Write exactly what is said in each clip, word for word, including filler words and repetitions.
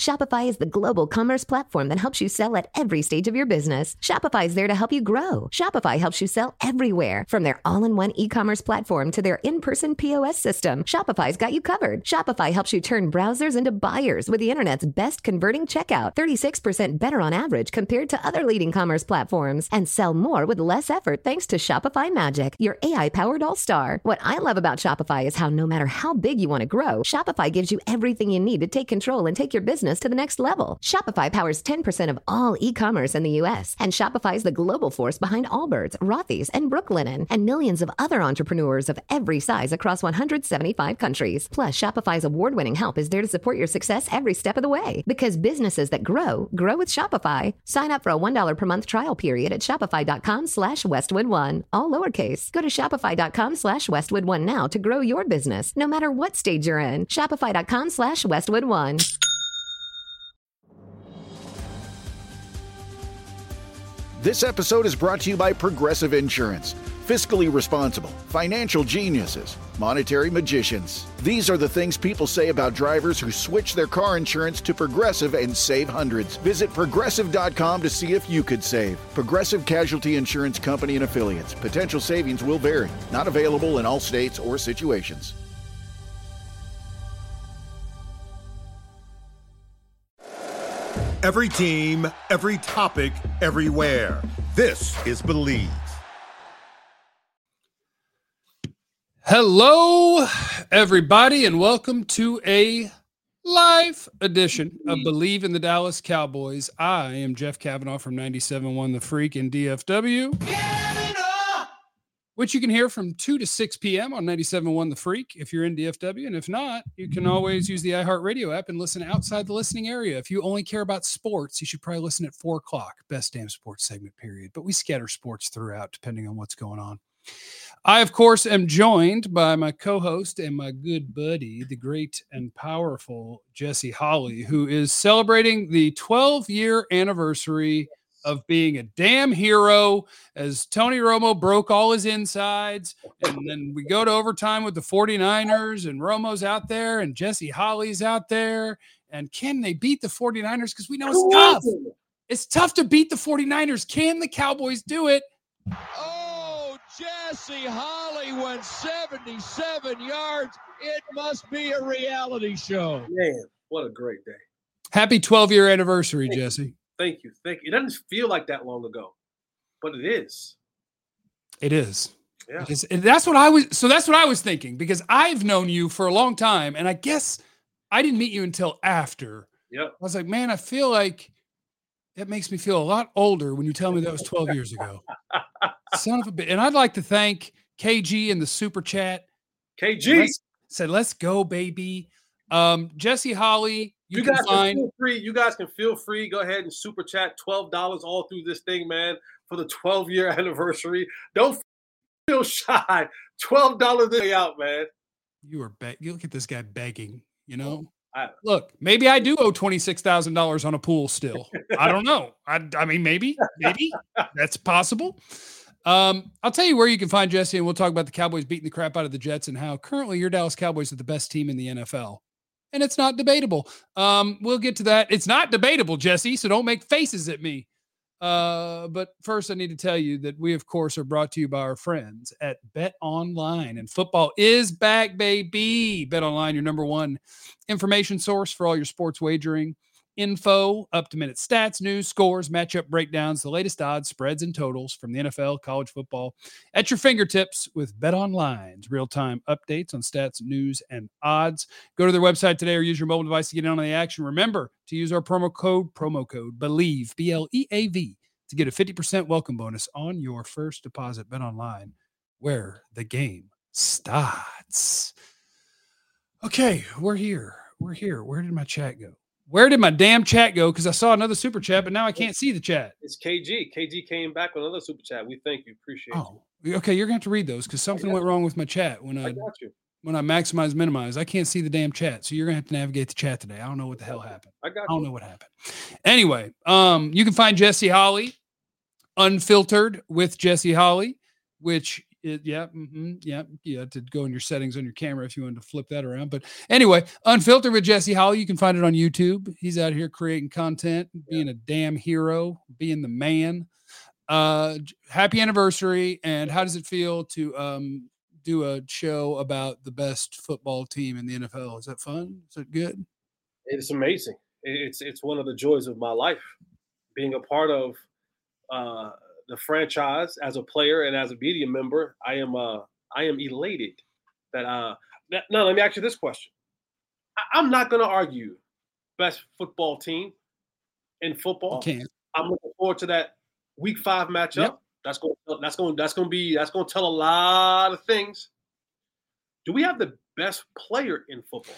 Shopify is the global commerce platform that helps you sell at every stage of your business. Shopify is there to help you grow. Shopify helps you sell everywhere, from their all-in-one e-commerce platform to their in-person P O S system. Shopify's got you covered. Shopify helps you turn browsers into buyers with the internet's best converting checkout, thirty-six percent better on average compared to other leading commerce platforms, and sell more with less effort thanks to Shopify Magic, your A I-powered all-star. What I love about Shopify is how no matter how big you want to grow, Shopify gives you everything you need to take control and take your business to the next level. Shopify powers ten percent of all e-commerce in the U S, and Shopify is the global force behind Allbirds, Rothy's, and Brooklinen, and millions of other entrepreneurs of every size across one hundred seventy-five countries. Plus, Shopify's award-winning help is there to support your success every step of the way. Because businesses that grow, grow with Shopify. Sign up for a one dollar per month trial period at shopify.com slash Westwood One. All lowercase. Go to shopify.com slash Westwood One now to grow your business, no matter what stage you're in. Shopify.com slash Westwood One. This episode is brought to you by Progressive Insurance. Fiscally responsible, financial geniuses, monetary magicians. These are the things people say about drivers who switch their car insurance to Progressive and save hundreds. Visit progressive dot com to see if you could save. Progressive Casualty Insurance Company and Affiliates. Potential savings will vary. Not available in all states or situations. Every team, every topic, everywhere. This is Believe. Hello, everybody, and welcome to a live edition of Believe in the Dallas Cowboys. I am Jeff Cavanaugh from ninety-seven point one The Freak in D F W, which you can hear from two to six p.m. on ninety-seven point one The Freak if you're in D F W. And if not, you can always use the iHeartRadio app and listen outside the listening area. If you only care about sports, you should probably listen at four o'clock. Best damn sports segment, period. But we scatter sports throughout depending on what's going on. I, of course, am joined by my co-host and my good buddy, the great and powerful Jesse Holley, who is celebrating the twelve-year anniversary of being a damn hero as Tony Romo broke all his insides. And then we go to overtime with the 49ers, and Romo's out there, and Jesse Holley's out there. And can they beat the 49ers? Because we know it's tough. It's tough to beat the 49ers. Can the Cowboys do it? Oh, Jesse Holley went seventy-seven yards. It must be a reality show. Man, what a great day. Happy twelve-year anniversary, Thank Jesse. You. Thank you. Thank you. It doesn't feel like that long ago, but it is. It is. Yeah. It is. And that's what I was. So that's what I was thinking, because I've known you for a long time, and I guess I didn't meet you until after. Yep. I was like, man, I feel like it makes me feel a lot older when you tell me that was twelve years ago. Son of a bitch. And I'd like to thank K G in the super chat. K G let's, said, let's go, baby. Um, Jesse Holley. You, you can guys find can feel free. You guys can feel free. Go ahead and super chat twelve dollars all through this thing, man, for the twelve-year anniversary. Don't feel shy. twelve dollars this way out, man. You are be- you look at this guy begging, you know. I, Look, maybe I do owe twenty-six thousand dollars on a pool still. I don't know. I, I mean, maybe, maybe that's possible. Um, I'll tell you where you can find Jesse, and we'll talk about the Cowboys beating the crap out of the Jets and how currently your Dallas Cowboys are the best team in the N F L. And it's not debatable. Um, we'll get to that. It's not debatable, Jesse, so don't make faces at me. Uh, but first, I need to tell you that we, of course, are brought to you by our friends at Bet Online. And football is back, baby. Bet Online, your number one information source for all your sports wagering info, up-to-minute stats, news, scores, matchup breakdowns, the latest odds, spreads, and totals from the N F L, college football at your fingertips with BetOnline's real-time updates on stats, news, and odds. Go to their website today or use your mobile device to get in on the action. Remember to use our promo code, promo code BELIEVE, B L E A V, to get a fifty percent welcome bonus on your first deposit. BetOnline, where the game starts. Okay, we're here. We're here. Where did my chat go? Where did my damn chat go? Because I saw another super chat, but now I can't see the chat. It's K G. K G came back with another super chat. We thank you. Appreciate oh, you. Okay, you're going to have to read those because something went wrong with my chat when I, I got you. when I maximize, minimize. I can't see the damn chat, so you're going to have to navigate the chat today. I don't know what the hell happened. I got I don't you. know what happened. Anyway, um, you can find Jesse Holley, Unfiltered with Jesse Holley, which It, yeah, mm-hmm, yeah, yeah. To go in your settings on your camera if you wanted to flip that around. But anyway, Unfiltered with Jesse Holley. You can find it on YouTube. He's out here creating content, being yeah. a damn hero, being the man. Uh, happy anniversary! And how does it feel to um do a show about the best football team in the N F L? Is that fun? Is it good? It's amazing. It's it's one of the joys of my life, being a part of uh, the franchise as a player and as a media member. I am uh, I am elated that. Uh, that now, let me ask you this question. I, I'm not going to argue best football team in football. You can't. I'm looking forward to that week five matchup. Yep. That's going. That's going. That's going to be. That's going to tell a lot of things. Do we have the best player in football?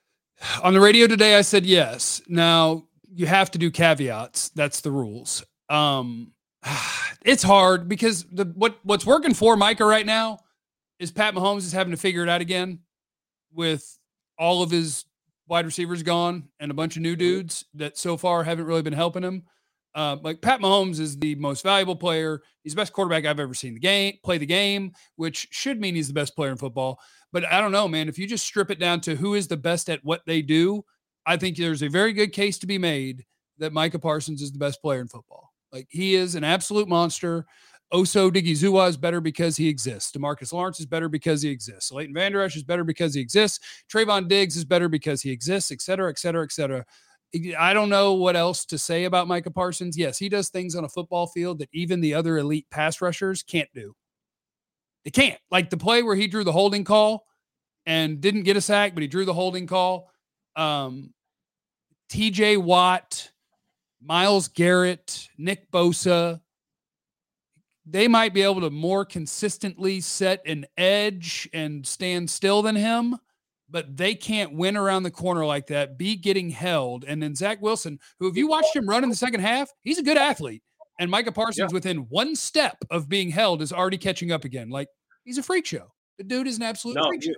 On the radio today, I said yes. Now you have to do caveats. That's the rules. Um, it's hard because the what what's working for Micah right now is Pat Mahomes is having to figure it out again with all of his wide receivers gone and a bunch of new dudes that so far haven't really been helping him. Uh, like Pat Mahomes is the most valuable player. He's the best quarterback I've ever seen the game play the game, which should mean he's the best player in football. But I don't know, man. If you just strip it down to who is the best at what they do, I think there's a very good case to be made that Micah Parsons is the best player in football. Like, he is an absolute monster. Oso Digizua is better because he exists. DeMarcus Lawrence is better because he exists. Leighton Vander Esch is better because he exists. Trayvon Diggs is better because he exists, et cetera, et cetera, et cetera. I don't know what else to say about Micah Parsons. Yes, he does things on a football field that even the other elite pass rushers can't do. They can't. Like the play where he drew the holding call and didn't get a sack, but he drew the holding call. Um, T J Watt, Myles Garrett, Nick Bosa, they might be able to more consistently set an edge and stand still than him, but they can't win around the corner like that, be getting held. And then Zach Wilson, who, if you watched him run in the second half, he's a good athlete. And Micah Parsons, yeah. within one step of being held, is already catching up again. Like, he's a freak show. The dude is an absolute no, freak show.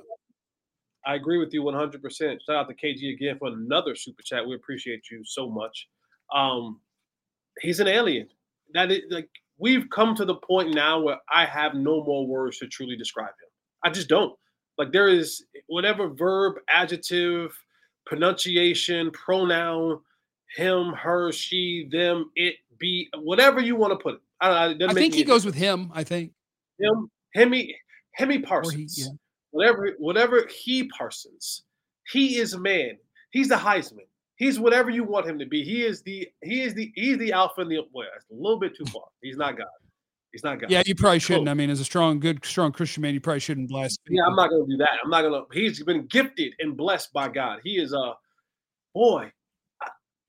I agree with you one hundred percent. Shout out to K G again for another super chat. We appreciate you so much. Um, he's an alien. That is, like, we've come to the point now where I have no more words to truly describe him. I just don't. Like, there is whatever verb, adjective, pronunciation, pronoun, him, her, she, them, it, be, whatever you want to put it. I, don't, I think he goes with him, I think. Him, Hemi, Hemi Parsons. He, yeah. Whatever, whatever he Parsons. He is a man. He's the Heisman. He's whatever you want him to be. He is the, he is the, he's the alpha and the, well, that's a little bit too far. He's not God. He's not God. Yeah, you probably shouldn't. I mean, as a strong, good, strong Christian man, you probably shouldn't blaspheme. Yeah, I'm not going to do that. I'm not going to. He's been gifted and blessed by God. He is a boy. I,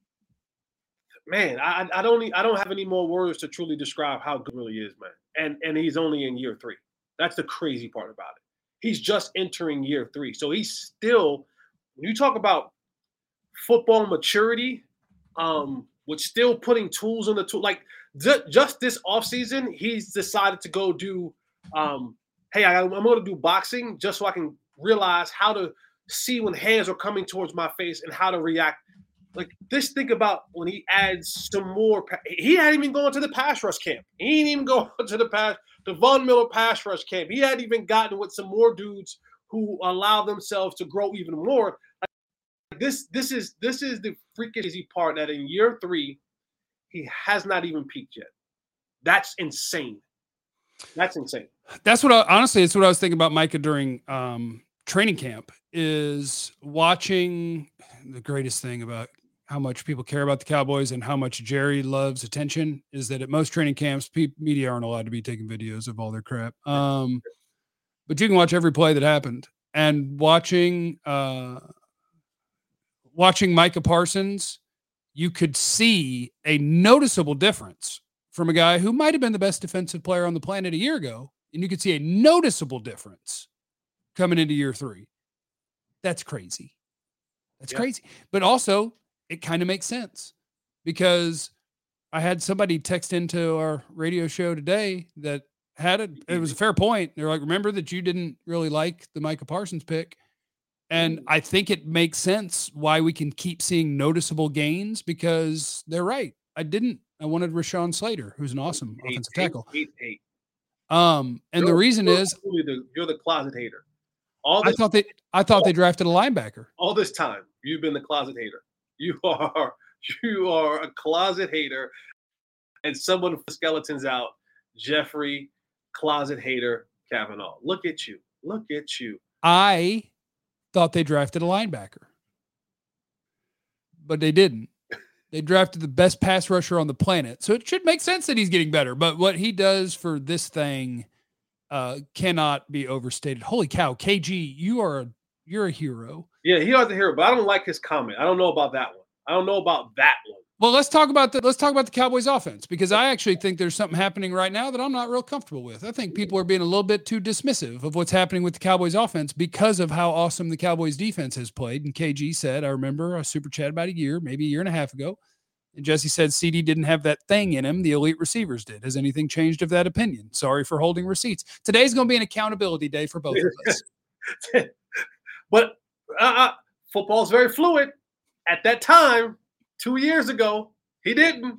man, I, I don't. I don't have any more words to truly describe how good he really is, man. And and he's only in year three. That's the crazy part about it. He's just entering year three, so he's still. When you talk about football maturity, um, with still putting tools in the tool, like. Just this offseason, he's decided to go do, um, hey, I, I'm going to do boxing just so I can realize how to see when hands are coming towards my face and how to react. Like, this, think about when he adds some more. He hadn't even gone to the pass rush camp. He ain't even gone to the pass, the Von Miller pass rush camp. He hadn't even gotten with some more dudes who allow themselves to grow even more. Like, this, this is this is the freaking easy part that in year three, he has not even peaked yet. That's insane. That's insane. That's what I, honestly, it's what I was thinking about Micah during um, training camp, is watching the greatest thing about how much people care about the Cowboys and how much Jerry loves attention is that at most training camps, pe- media aren't allowed to be taking videos of all their crap. Um, but you can watch every play that happened, and watching, uh, watching Micah Parsons, you could see a noticeable difference from a guy who might have been the best defensive player on the planet a year ago. And you could see a noticeable difference coming into year three. That's crazy. That's yeah. crazy. But also, it kind of makes sense because I had somebody text into our radio show today that had it. It was a fair point. They're like, remember that you didn't really like the Micah Parsons pick. And I think it makes sense why we can keep seeing noticeable gains because they're right. I didn't. I wanted Rashawn Slater, who's an awesome eight, offensive eight, tackle. Eight, eight. Um, and You're, the reason you're is the, you're the closet hater. All I this, thought they I thought they drafted a linebacker. all this time, you've been the closet hater. You are you are a closet hater, and someone with skeletons out. Jeffrey, closet hater, Kavanaugh. Look at you. Look at you. I thought they drafted a linebacker, but they didn't. They drafted the best pass rusher on the planet. So it should make sense that he's getting better. But what he does for this thing uh, cannot be overstated. Holy cow, K G, you are a, you're a hero. Yeah, he was a hero, but I don't like his comment. I don't know about that one. I don't know about that one. Well, let's talk about the let's talk about the Cowboys offense, because I actually think there's something happening right now that I'm not real comfortable with. I think people are being a little bit too dismissive of what's happening with the Cowboys offense because of how awesome the Cowboys defense has played. And K G said, I remember a super chat about a year, maybe a year and a half ago. And Jesse said C D didn't have that thing in him. The elite receivers did. Has anything changed of that opinion? Sorry for holding receipts. Today's going to be an accountability day for both of us. But uh, football is very fluid. At that time, two years ago, he didn't.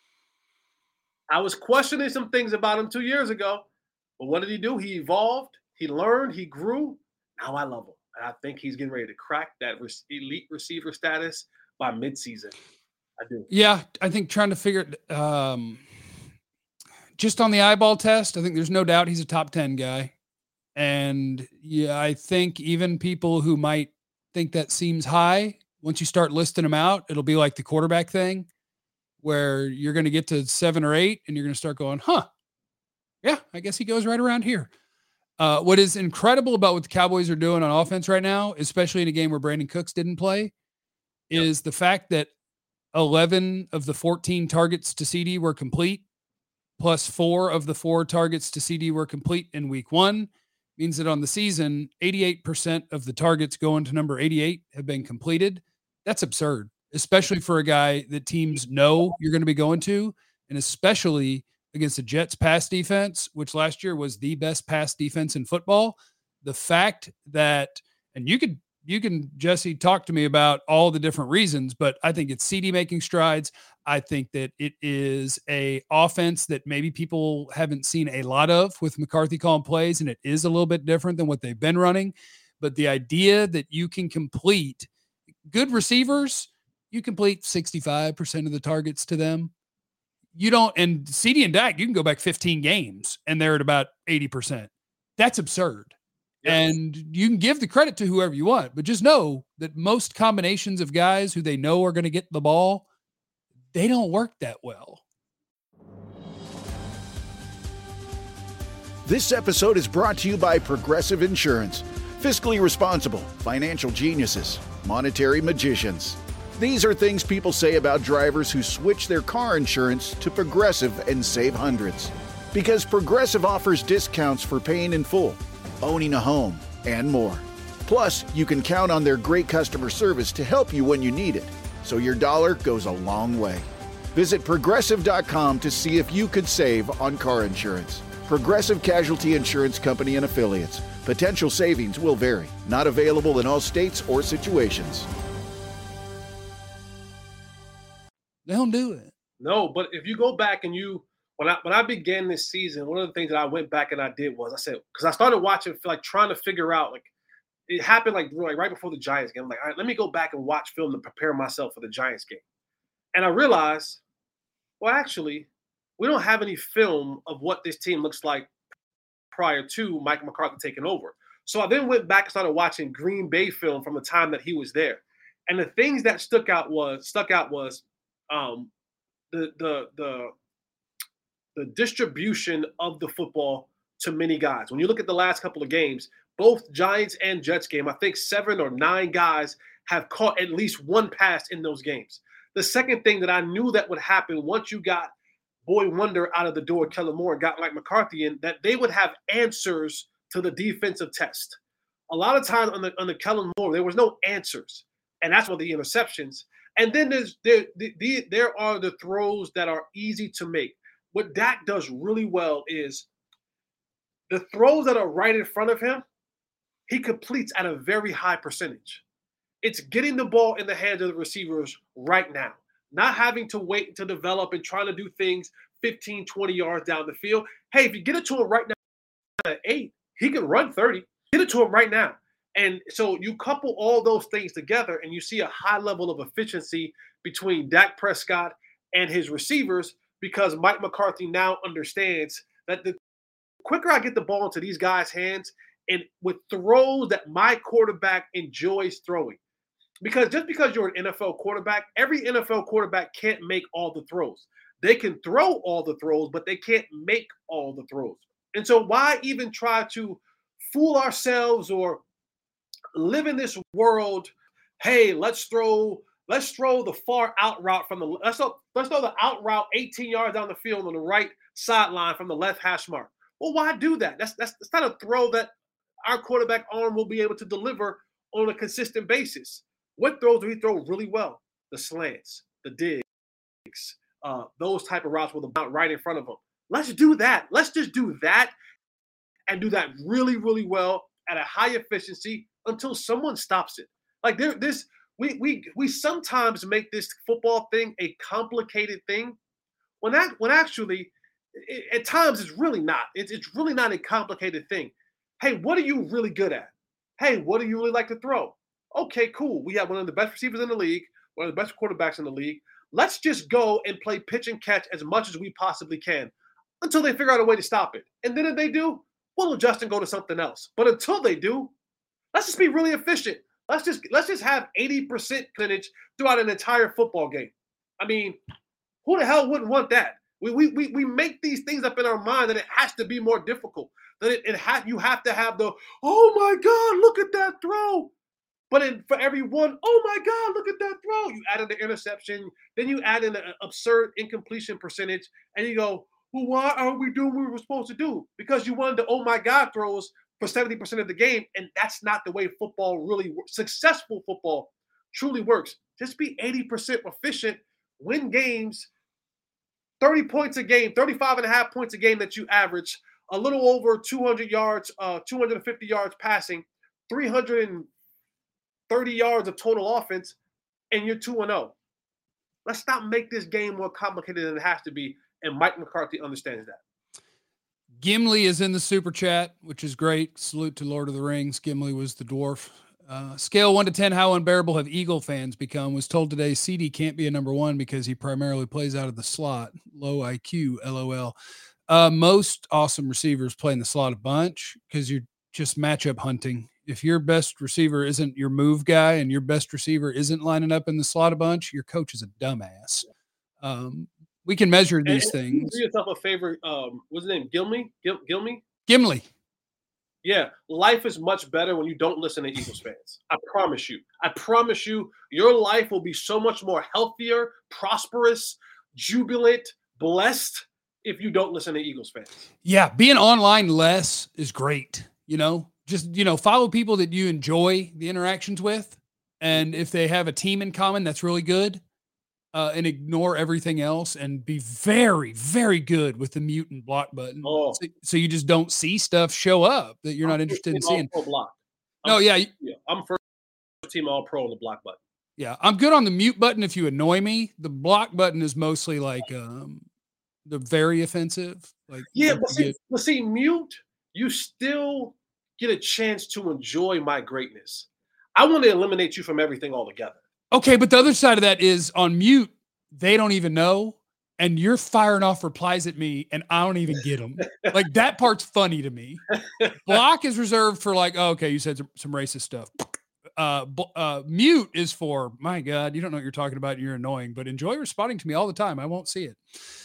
I was questioning some things about him two years ago. But what did he do? He evolved. He learned. He grew. Now I love him. And I think he's getting ready to crack that elite receiver status by midseason. I do. Yeah, I think trying to figure it um, just on the eyeball test, I think there's no doubt he's a top ten guy. And yeah, I think even people who might think that seems high, once you start listing them out, it'll be like the quarterback thing where you're going to get to seven or eight and you're going to start going, huh, yeah, I guess he goes right around here. Uh, what is incredible about what the Cowboys are doing on offense right now, especially in a game where Brandon Cooks didn't play, yep. is the fact that eleven of the fourteen targets to C D were complete, plus four of the four targets to C D were complete in week one. Means that on the season, eighty-eight percent of the targets going to number eighty-eight have been completed. That's absurd, especially for a guy that teams know you're going to be going to, and especially against the Jets pass defense, which last year was the best pass defense in football. The fact that, and you could, you can, Jesse, talk to me about all the different reasons, but I think it's C D making strides. I think that it is a offense that maybe people haven't seen a lot of with McCarthy calling plays, and it is a little bit different than what they've been running. But the idea that you can complete good receivers, you complete sixty-five percent of the targets to them. You don't, and C D and Dak, you can go back fifteen games and they're at about eighty percent. That's absurd. Yes. And you can give the credit to whoever you want, but just know that most combinations of guys who they know are going to get the ball, they don't work that well. This episode is brought to you by Progressive Insurance. Fiscally responsible, financial geniuses, monetary magicians. These are things people say about drivers who switch their car insurance to Progressive and save hundreds. Because Progressive offers discounts for paying in full, owning a home, and more. Plus, you can count on their great customer service to help you when you need it, so your dollar goes a long way. Visit Progressive dot com to see if you could save on car insurance. Progressive Casualty Insurance Company and Affiliates. Potential savings will vary. Not available in all states or situations. They don't do it. No, but if you go back and you, when I when I began this season, one of the things that I went back and I did was I said, because I started watching, like trying to figure out, like it happened like, like right before the Giants game. I'm like, all right, let me go back and watch film to prepare myself for the Giants game. And I realized, well, actually, we don't have any film of what this team looks like prior to Mike McCarthy taking over. So I then went back and started watching Green Bay film from the time that he was there. And the things that stuck out was stuck out was um, the the the the distribution of the football to many guys. When you look at the last couple of games, both Giants and Jets game, I think seven or nine guys have caught at least one pass in those games. The second thing that I knew that would happen once you got Boy Wonder out of the door, Kellen Moore, and got Mike McCarthy in, that they would have answers to the defensive test. A lot of times on the on the Kellen Moore, there was no answers, and that's what the interceptions. And then there's there the, the, there are the throws that are easy to make. What Dak does really well is the throws that are right in front of him, he completes at a very high percentage. It's getting the ball in the hands of the receivers right now, not having to wait to develop and trying to do things fifteen, twenty yards down the field. Hey, if you get it to him right now, at eight. He can run thirty. Get it to him right now. And so you couple all those things together and you see a high level of efficiency between Dak Prescott and his receivers because Mike McCarthy now understands that the quicker I get the ball into these guys' hands and with throws that my quarterback enjoys throwing. Because just because you're an N F L quarterback, every N F L quarterback can't make all the throws. They can throw all the throws, but they can't make all the throws. And so why even try to fool ourselves or live in this world? Hey, let's throw, let's throw the far out route from the let's throw, let's throw the out route eighteen yards down the field on the right sideline from the left hash mark. Well, why do that? That's that's, that's not a throw that our quarterback arm will be able to deliver on a consistent basis. What throws do he throw really well? The slants, the digs, uh, those type of routes with the bounce right in front of him. Let's do that. Let's just do that and do that really, really well at a high efficiency until someone stops it. Like there, this, we we we sometimes make this football thing a complicated thing, when that when actually, it, at times it's really not. It's it's really not a complicated thing. Hey, what are you really good at? Hey, what do you really like to throw? Okay, cool. We have one of the best receivers in the league, one of the best quarterbacks in the league. Let's just go and play pitch and catch as much as we possibly can until they figure out a way to stop it. And then if they do, we'll adjust and go to something else. But until they do, let's just be really efficient. Let's just let's just have eighty percent percentage throughout an entire football game. I mean, who the hell wouldn't want that? We we we, we make these things up in our mind that it has to be more difficult. That it, it ha- you have to have the, oh my God, look at that throw. But in, for every one, oh my God, look at that throw. You add in the interception, then you add in an absurd incompletion percentage, and you go, well, why aren't we doing what we were supposed to do? Because you wanted the oh my God throws for seventy percent of the game, and that's not the way football really works. Successful football truly works. Just be eighty percent efficient, win games, thirty points a game, thirty-five and a half points a game that you average, a little over two hundred yards, uh, two hundred fifty yards passing, three hundred thirty yards of total offense, and you're two and oh. Let's not make this game more complicated than it has to be, and Mike McCarthy understands that. Gimli is in the super chat, which is great. Salute to Lord of the Rings. Gimli was the dwarf. Uh, scale one to ten, how unbearable have Eagle fans become? Was told today C D can't be a number one because he primarily plays out of the slot. Low I Q, LOL. Uh, most awesome receivers play in the slot a bunch because you're just matchup hunting. If your best receiver isn't your move guy and your best receiver isn't lining up in the slot a bunch, your coach is a dumbass. Um, we can measure these and, things. Do yourself a favor. Um, what's his name? Gilmy? Gil- Gilmy? Gimli. Yeah. Life is much better when you don't listen to Eagles fans. I promise you. I promise you, your life will be so much more healthier, prosperous, jubilant, blessed if you don't listen to Eagles fans. Yeah. Being online less is great. You know, just, you know, follow people that you enjoy the interactions with. And if they have a team in common, that's really good. Uh, and ignore everything else and be very, very good with the mute and block button. Oh. So, so you just don't see stuff show up that you're I'm not interested in seeing. Block. No, yeah. yeah. I'm first team all pro on the block button. Yeah. I'm good on the mute button if you annoy me. The block button is mostly like um, the very offensive. Like Yeah, but see, but see, mute, you still get a chance to enjoy my greatness. I want to eliminate you from everything altogether. Okay, but the other side of that is on mute, they don't even know, and you're firing off replies at me, and I don't even get them. Like, that part's funny to me. Block is reserved for like, oh, okay, you said some, some racist stuff. Uh, uh, mute is for, my God, you don't know what you're talking about, and you're annoying, but enjoy responding to me all the time. I won't see it.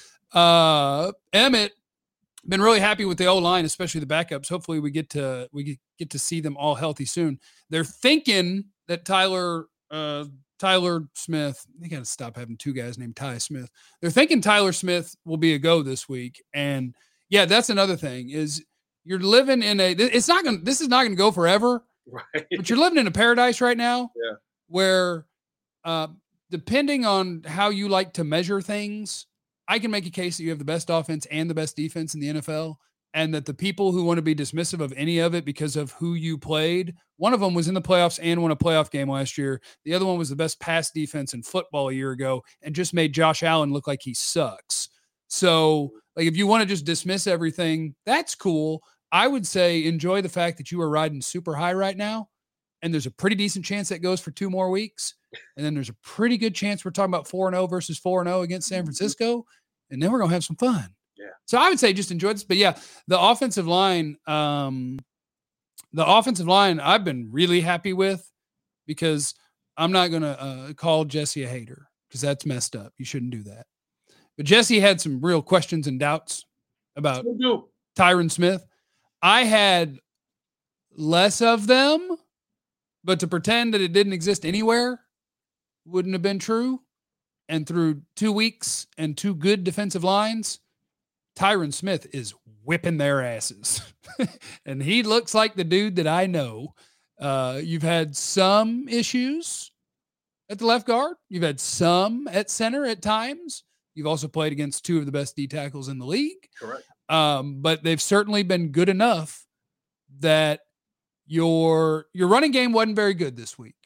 Uh, Emmett, been really happy with the O-line, especially the backups. Hopefully we get to we get to see them all healthy soon. They're thinking that Tyler uh, Tyler Smith, they got to stop having two guys named Ty Smith. They're thinking Tyler Smith will be a go this week. And yeah, that's another thing is you're living in a, it's not going to, this is not going to go forever, right? But you're living in a paradise right now yeah. where uh, depending on how you like to measure things, I can make a case that you have the best offense and the best defense in the N F L, and that the people who want to be dismissive of any of it because of who you played, one of them was in the playoffs and won a playoff game last year. The other one was the best pass defense in football a year ago and just made Josh Allen look like he sucks. So, like, if you want to just dismiss everything, that's cool. I would say enjoy the fact that you are riding super high right now. And there's a pretty decent chance that goes for two more weeks. And then there's a pretty good chance we're talking about four and oh versus four and oh against San Francisco. And then we're going to have some fun. Yeah. So I would say just enjoy this. But yeah, the offensive line, um, the offensive line I've been really happy with, because I'm not going to uh, call Jesse a hater, because that's messed up. You shouldn't do that. But Jesse had some real questions and doubts about Tyron Smith. I had less of them, but to pretend that it didn't exist anywhere wouldn't have been true. And through two weeks and two good defensive lines, Tyron Smith is whipping their asses. And he looks like the dude that I know. Uh, you've had some issues at the left guard. You've had some at center at times. You've also played against two of the best D tackles in the league. Correct. Um, but they've certainly been good enough that your your running game wasn't very good this week.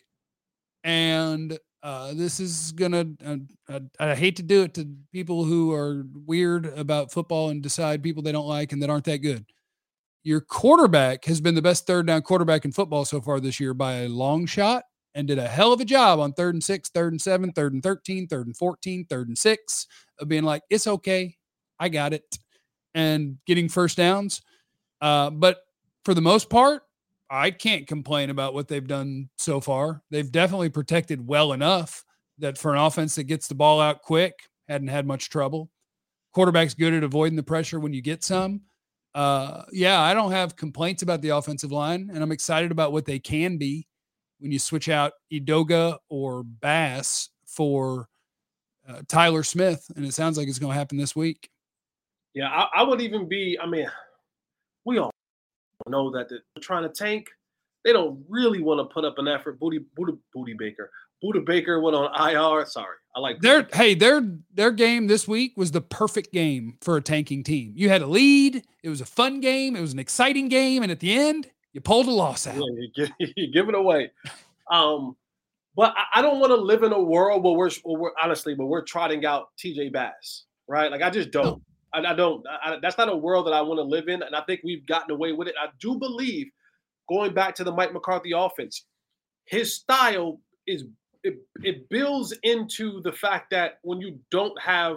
And uh, this is going to, uh, I, I hate to do it to people who are weird about football and decide people they don't like and that aren't that good. Your quarterback has been the best third down quarterback in football so far this year by a long shot, and did a hell of a job on third and six, third and seven, third and thirteen, third and fourteen, third and six of being like, it's okay. I got it. And getting first downs. Uh, but for the most part, I can't complain about what they've done so far. They've definitely protected well enough that for an offense that gets the ball out quick, hadn't had much trouble. Quarterback's good at avoiding the pressure when you get some. Uh, yeah, I don't have complaints about the offensive line, and I'm excited about what they can be when you switch out Edoga or Bass for uh, Tyler Smith, and it sounds like it's going to happen this week. Yeah, I, I would even be, I mean, we all know that they're trying to tank. They don't really want to put up an effort. Booty, Booty, Booty Baker. Booty Baker went on I R. Sorry. I like their hey, their their game this week was the perfect game for a tanking team. You had a lead, it was a fun game, it was an exciting game, and at the end, you pulled a loss out. Yeah, you, give, you give it away. Um, but I, I don't want to live in a world where we're, where we're honestly, where we're trotting out T J Bass, right? Like I just don't. No. I, I don't. I, that's not a world that I want to live in, and I think we've gotten away with it. I do believe, going back to the Mike McCarthy offense, his style is it, it builds into the fact that when you don't have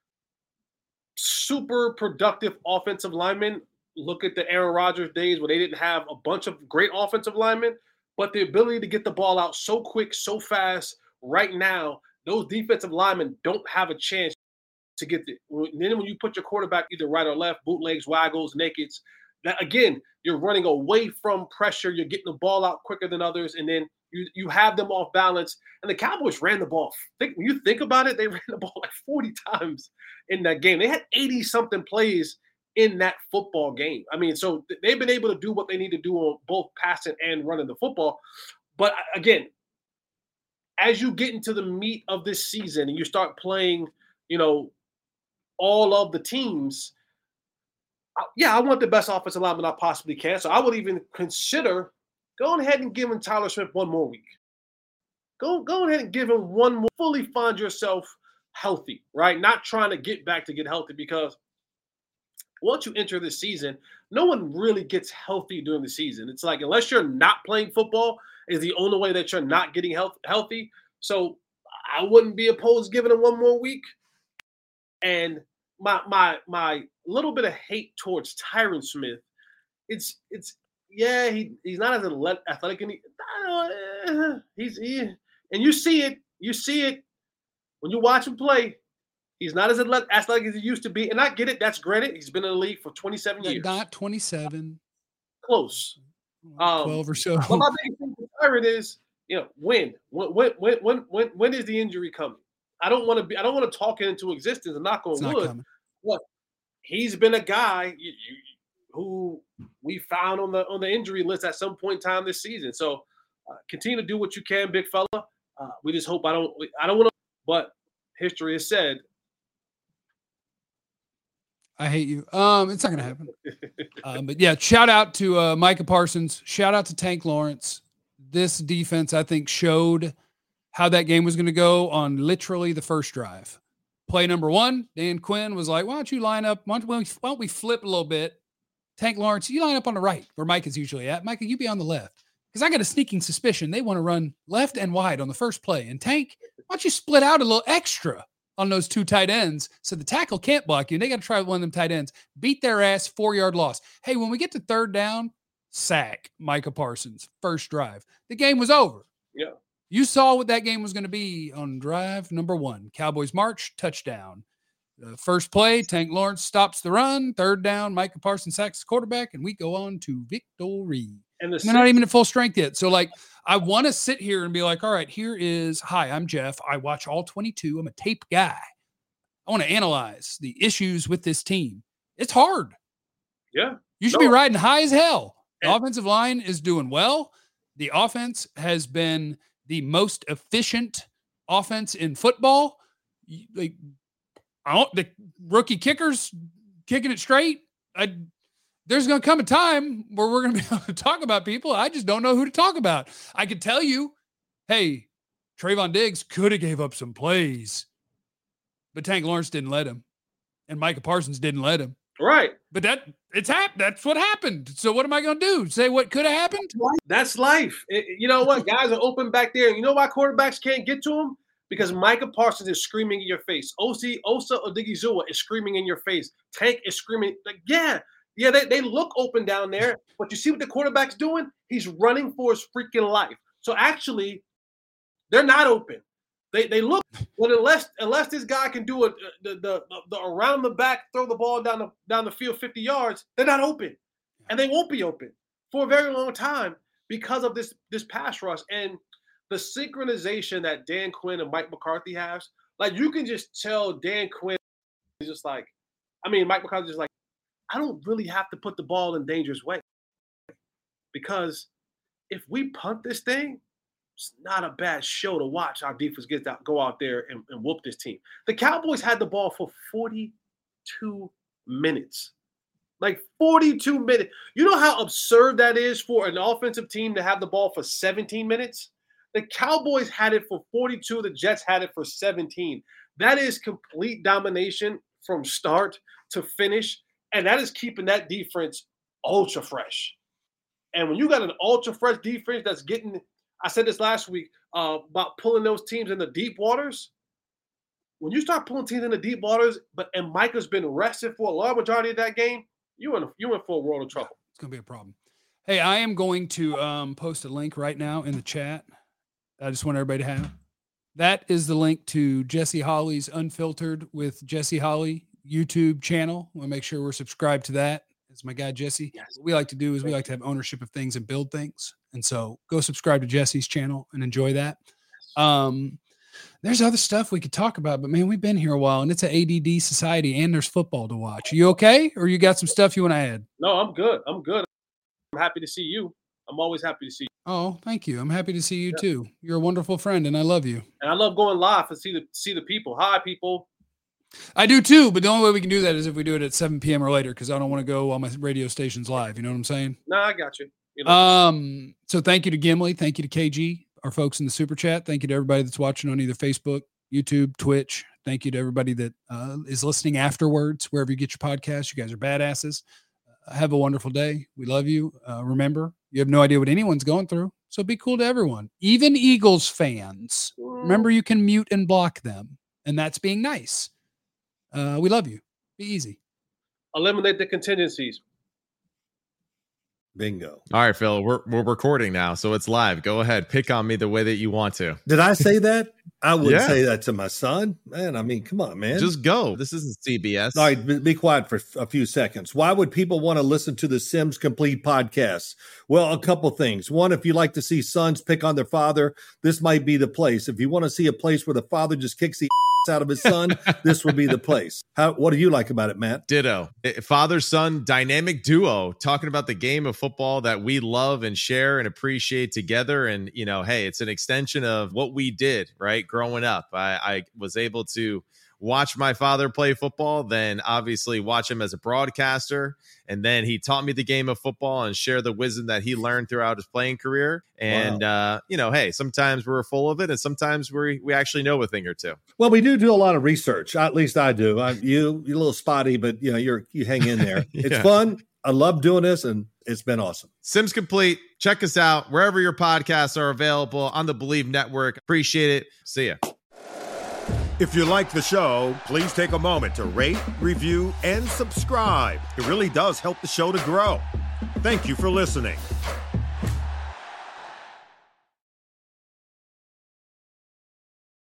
super productive offensive linemen, look at the Aaron Rodgers days where they didn't have a bunch of great offensive linemen, but the ability to get the ball out so quick, so fast. Right now, those defensive linemen don't have a chance to get the. Then when you put your quarterback either right or left, bootlegs, waggles, nakeds, that again, you're running away from pressure. You're getting the ball out quicker than others, and then you you have them off balance. And the Cowboys ran the ball. Think, when you think about it, they ran the ball like forty times in that game. They had eighty something plays in that football game. I mean, so they've been able to do what they need to do on both passing and running the football. But again, as you get into the meat of this season and you start playing, you know, all of the teams, yeah, I want the best offensive lineman I possibly can. So I would even consider going ahead and giving Tyler Smith one more week. Go, go ahead and give him one more. Fully find yourself healthy, right? Not trying to get back to get healthy, because once you enter the season, no one really gets healthy during the season. It's like, unless you're not playing football, is the only way that you're not getting health, healthy. So I wouldn't be opposed to giving him one more week. And my my my little bit of hate towards Tyron Smith, it's it's yeah, he he's not as athletic, and he, uh, he's he, and you see it, you see it when you watch him play. He's not as athletic as he used to be, and I get it. That's granted. He's been in the league for twenty-seven years. Not twenty-seven. Close. Um, Twelve or so. But my biggest thing with Tyron is, you know, when when when when when when is the injury coming? I don't want to be. I don't want to talk it into existence. I'm not going to wood. What? He's been a guy you, you, who we found on the on the injury list at some point in time this season. So uh, continue to do what you can, big fella. Uh, we just hope I don't. I don't want to. But history has said. I hate you. Um, it's not going to happen. um, but yeah, shout out to uh, Micah Parsons. Shout out to Tank Lawrence. This defense, I think, showed how that game was going to go on literally the first drive. Play number one, Dan Quinn was like, why don't you line up? Why don't we, why don't we flip a little bit? Tank Lawrence, you line up on the right where Mike is usually at. Micah, you be on the left. Because I got a sneaking suspicion they want to run left and wide on the first play. And Tank, why don't you split out a little extra on those two tight ends so the tackle can't block you? And they got to try one of them tight ends. Beat their ass, four-yard loss. Hey, when we get to third down, sack Micah Parsons, first drive. The game was over. Yeah. You saw what that game was going to be on drive number one. Cowboys march, touchdown. The first play, Tank Lawrence stops the run. Third down, Micah Parsons sacks the quarterback, and we go on to victory. And the they're not even at full strength yet. So, like, I want to sit here and be like, all right, here is, hi, I'm Jeff. I watch all twenty-two. I'm a tape guy. I want to analyze the issues with this team. It's hard. Yeah. You should no. be riding high as hell. The And- offensive line is doing well. The offense has been the most efficient offense in football. Like, I don't, the rookie kickers kicking it straight. I, there's going to come a time where we're going to be able to talk about people. I just don't know who to talk about. I could tell you, hey, Trayvon Diggs could have gave up some plays, but Tank Lawrence didn't let him, and Micah Parsons didn't let him. Right. But that it's happened. That's what happened. So what am I going to do? Say what could have happened? That's life. It, you know what? Guys are open back there. You know why quarterbacks can't get to them? Because Micah Parsons is screaming in your face. O C, Osa Odigizua is screaming in your face. Tank is screaming. Like, yeah, yeah, they, they look open down there. But you see what the quarterback's doing? He's running for his freaking life. So actually, they're not open. They they look, but unless unless this guy can do it, the, the the around the back, throw the ball down the down the field fifty yards, they're not open, and they won't be open for a very long time because of this this pass rush and the synchronization that Dan Quinn and Mike McCarthy has. Like, you can just tell Dan Quinn is just like, I mean, Mike McCarthy is like, I don't really have to put the ball in dangerous way because if we punt this thing, it's not a bad show to watch our defense get out, go out there and, and whoop this team. The Cowboys had the ball for forty-two minutes. Like forty-two minutes. You know how absurd that is for an offensive team to have the ball for seventeen minutes? The Cowboys had it for forty-two. The Jets had it for seventeen. That is complete domination from start to finish. And that is keeping that defense ultra fresh. And when you got an ultra fresh defense that's getting – I said this last week uh, about pulling those teams in the deep waters. When you start pulling teams in the deep waters, but and Micah's been rested for a large majority of that game, you in you in for a world of trouble. It's gonna be a problem. Hey, I am going to um, post a link right now in the chat. I just want everybody to have. That is the link to Jesse Holly's Unfiltered with Jesse Holly YouTube channel. We'll make sure we're subscribed to that. It's my guy Jesse. Yes. What we like to do is we like to have ownership of things and build things. And so go subscribe to Jesse's channel and enjoy that. Um, there's other stuff we could talk about, but man, we've been here a while and it's an A D D society and there's football to watch. You okay? Or you got some stuff you want to add? No, I'm good. I'm good. I'm happy to see you. I'm always happy to see you. Oh, thank you. I'm happy to see you yeah. too. You're a wonderful friend and I love you. And I love going live and see the see the people. Hi, people. I do too, but the only way we can do that is if we do it at seven p.m. or later because I don't want to go on my radio stations live. You know what I'm saying? No, I got you. You know. Um. So thank you to Gimli. Thank you to K G, our folks in the super chat. Thank you to everybody that's watching on either Facebook, YouTube, Twitch. Thank you to everybody that uh, is listening afterwards, wherever you get your podcasts. You guys are badasses. Uh, have a wonderful day. We love you. Uh, remember, you have no idea what anyone's going through, so be cool to everyone, even Eagles fans. Remember, you can mute and block them, and that's being nice. Uh, we love you. Be easy. Eliminate the contingencies. Bingo. All right, Phil, we're we're recording now, so it's live. Go ahead. Pick on me the way that you want to. Did I say that? I wouldn't yeah. say that to my son. Man, I mean, come on, man. Just go. This isn't C B S. All right, be quiet for a few seconds. Why would people want to listen to the Sims Complete podcast? Well, a couple things. One, if you like to see sons pick on their father, this might be the place. If you want to see a place where the father just kicks the out of his son, this would be the place. How? What do you like about it, Matt? Ditto. Father-son dynamic duo talking about the game of football that we love and share and appreciate together. And, you know, hey, it's an extension of what we did, right? Growing up, I, I was able to watch my father play football, then obviously watch him as a broadcaster. And then he taught me the game of football and share the wisdom that he learned throughout his playing career. And, wow. uh, you know, hey, sometimes we're full of it and sometimes we we actually know a thing or two. Well, we do do a lot of research. At least I do. I, you, you're a little spotty, but, you know, you're you hang in there. It's yeah. fun. I love doing this, and it's been awesome. Sims Complete. Check us out wherever your podcasts are available on the Believe Network. Appreciate it. See ya. If you like the show, please take a moment to rate, review, and subscribe. It really does help the show to grow. Thank you for listening.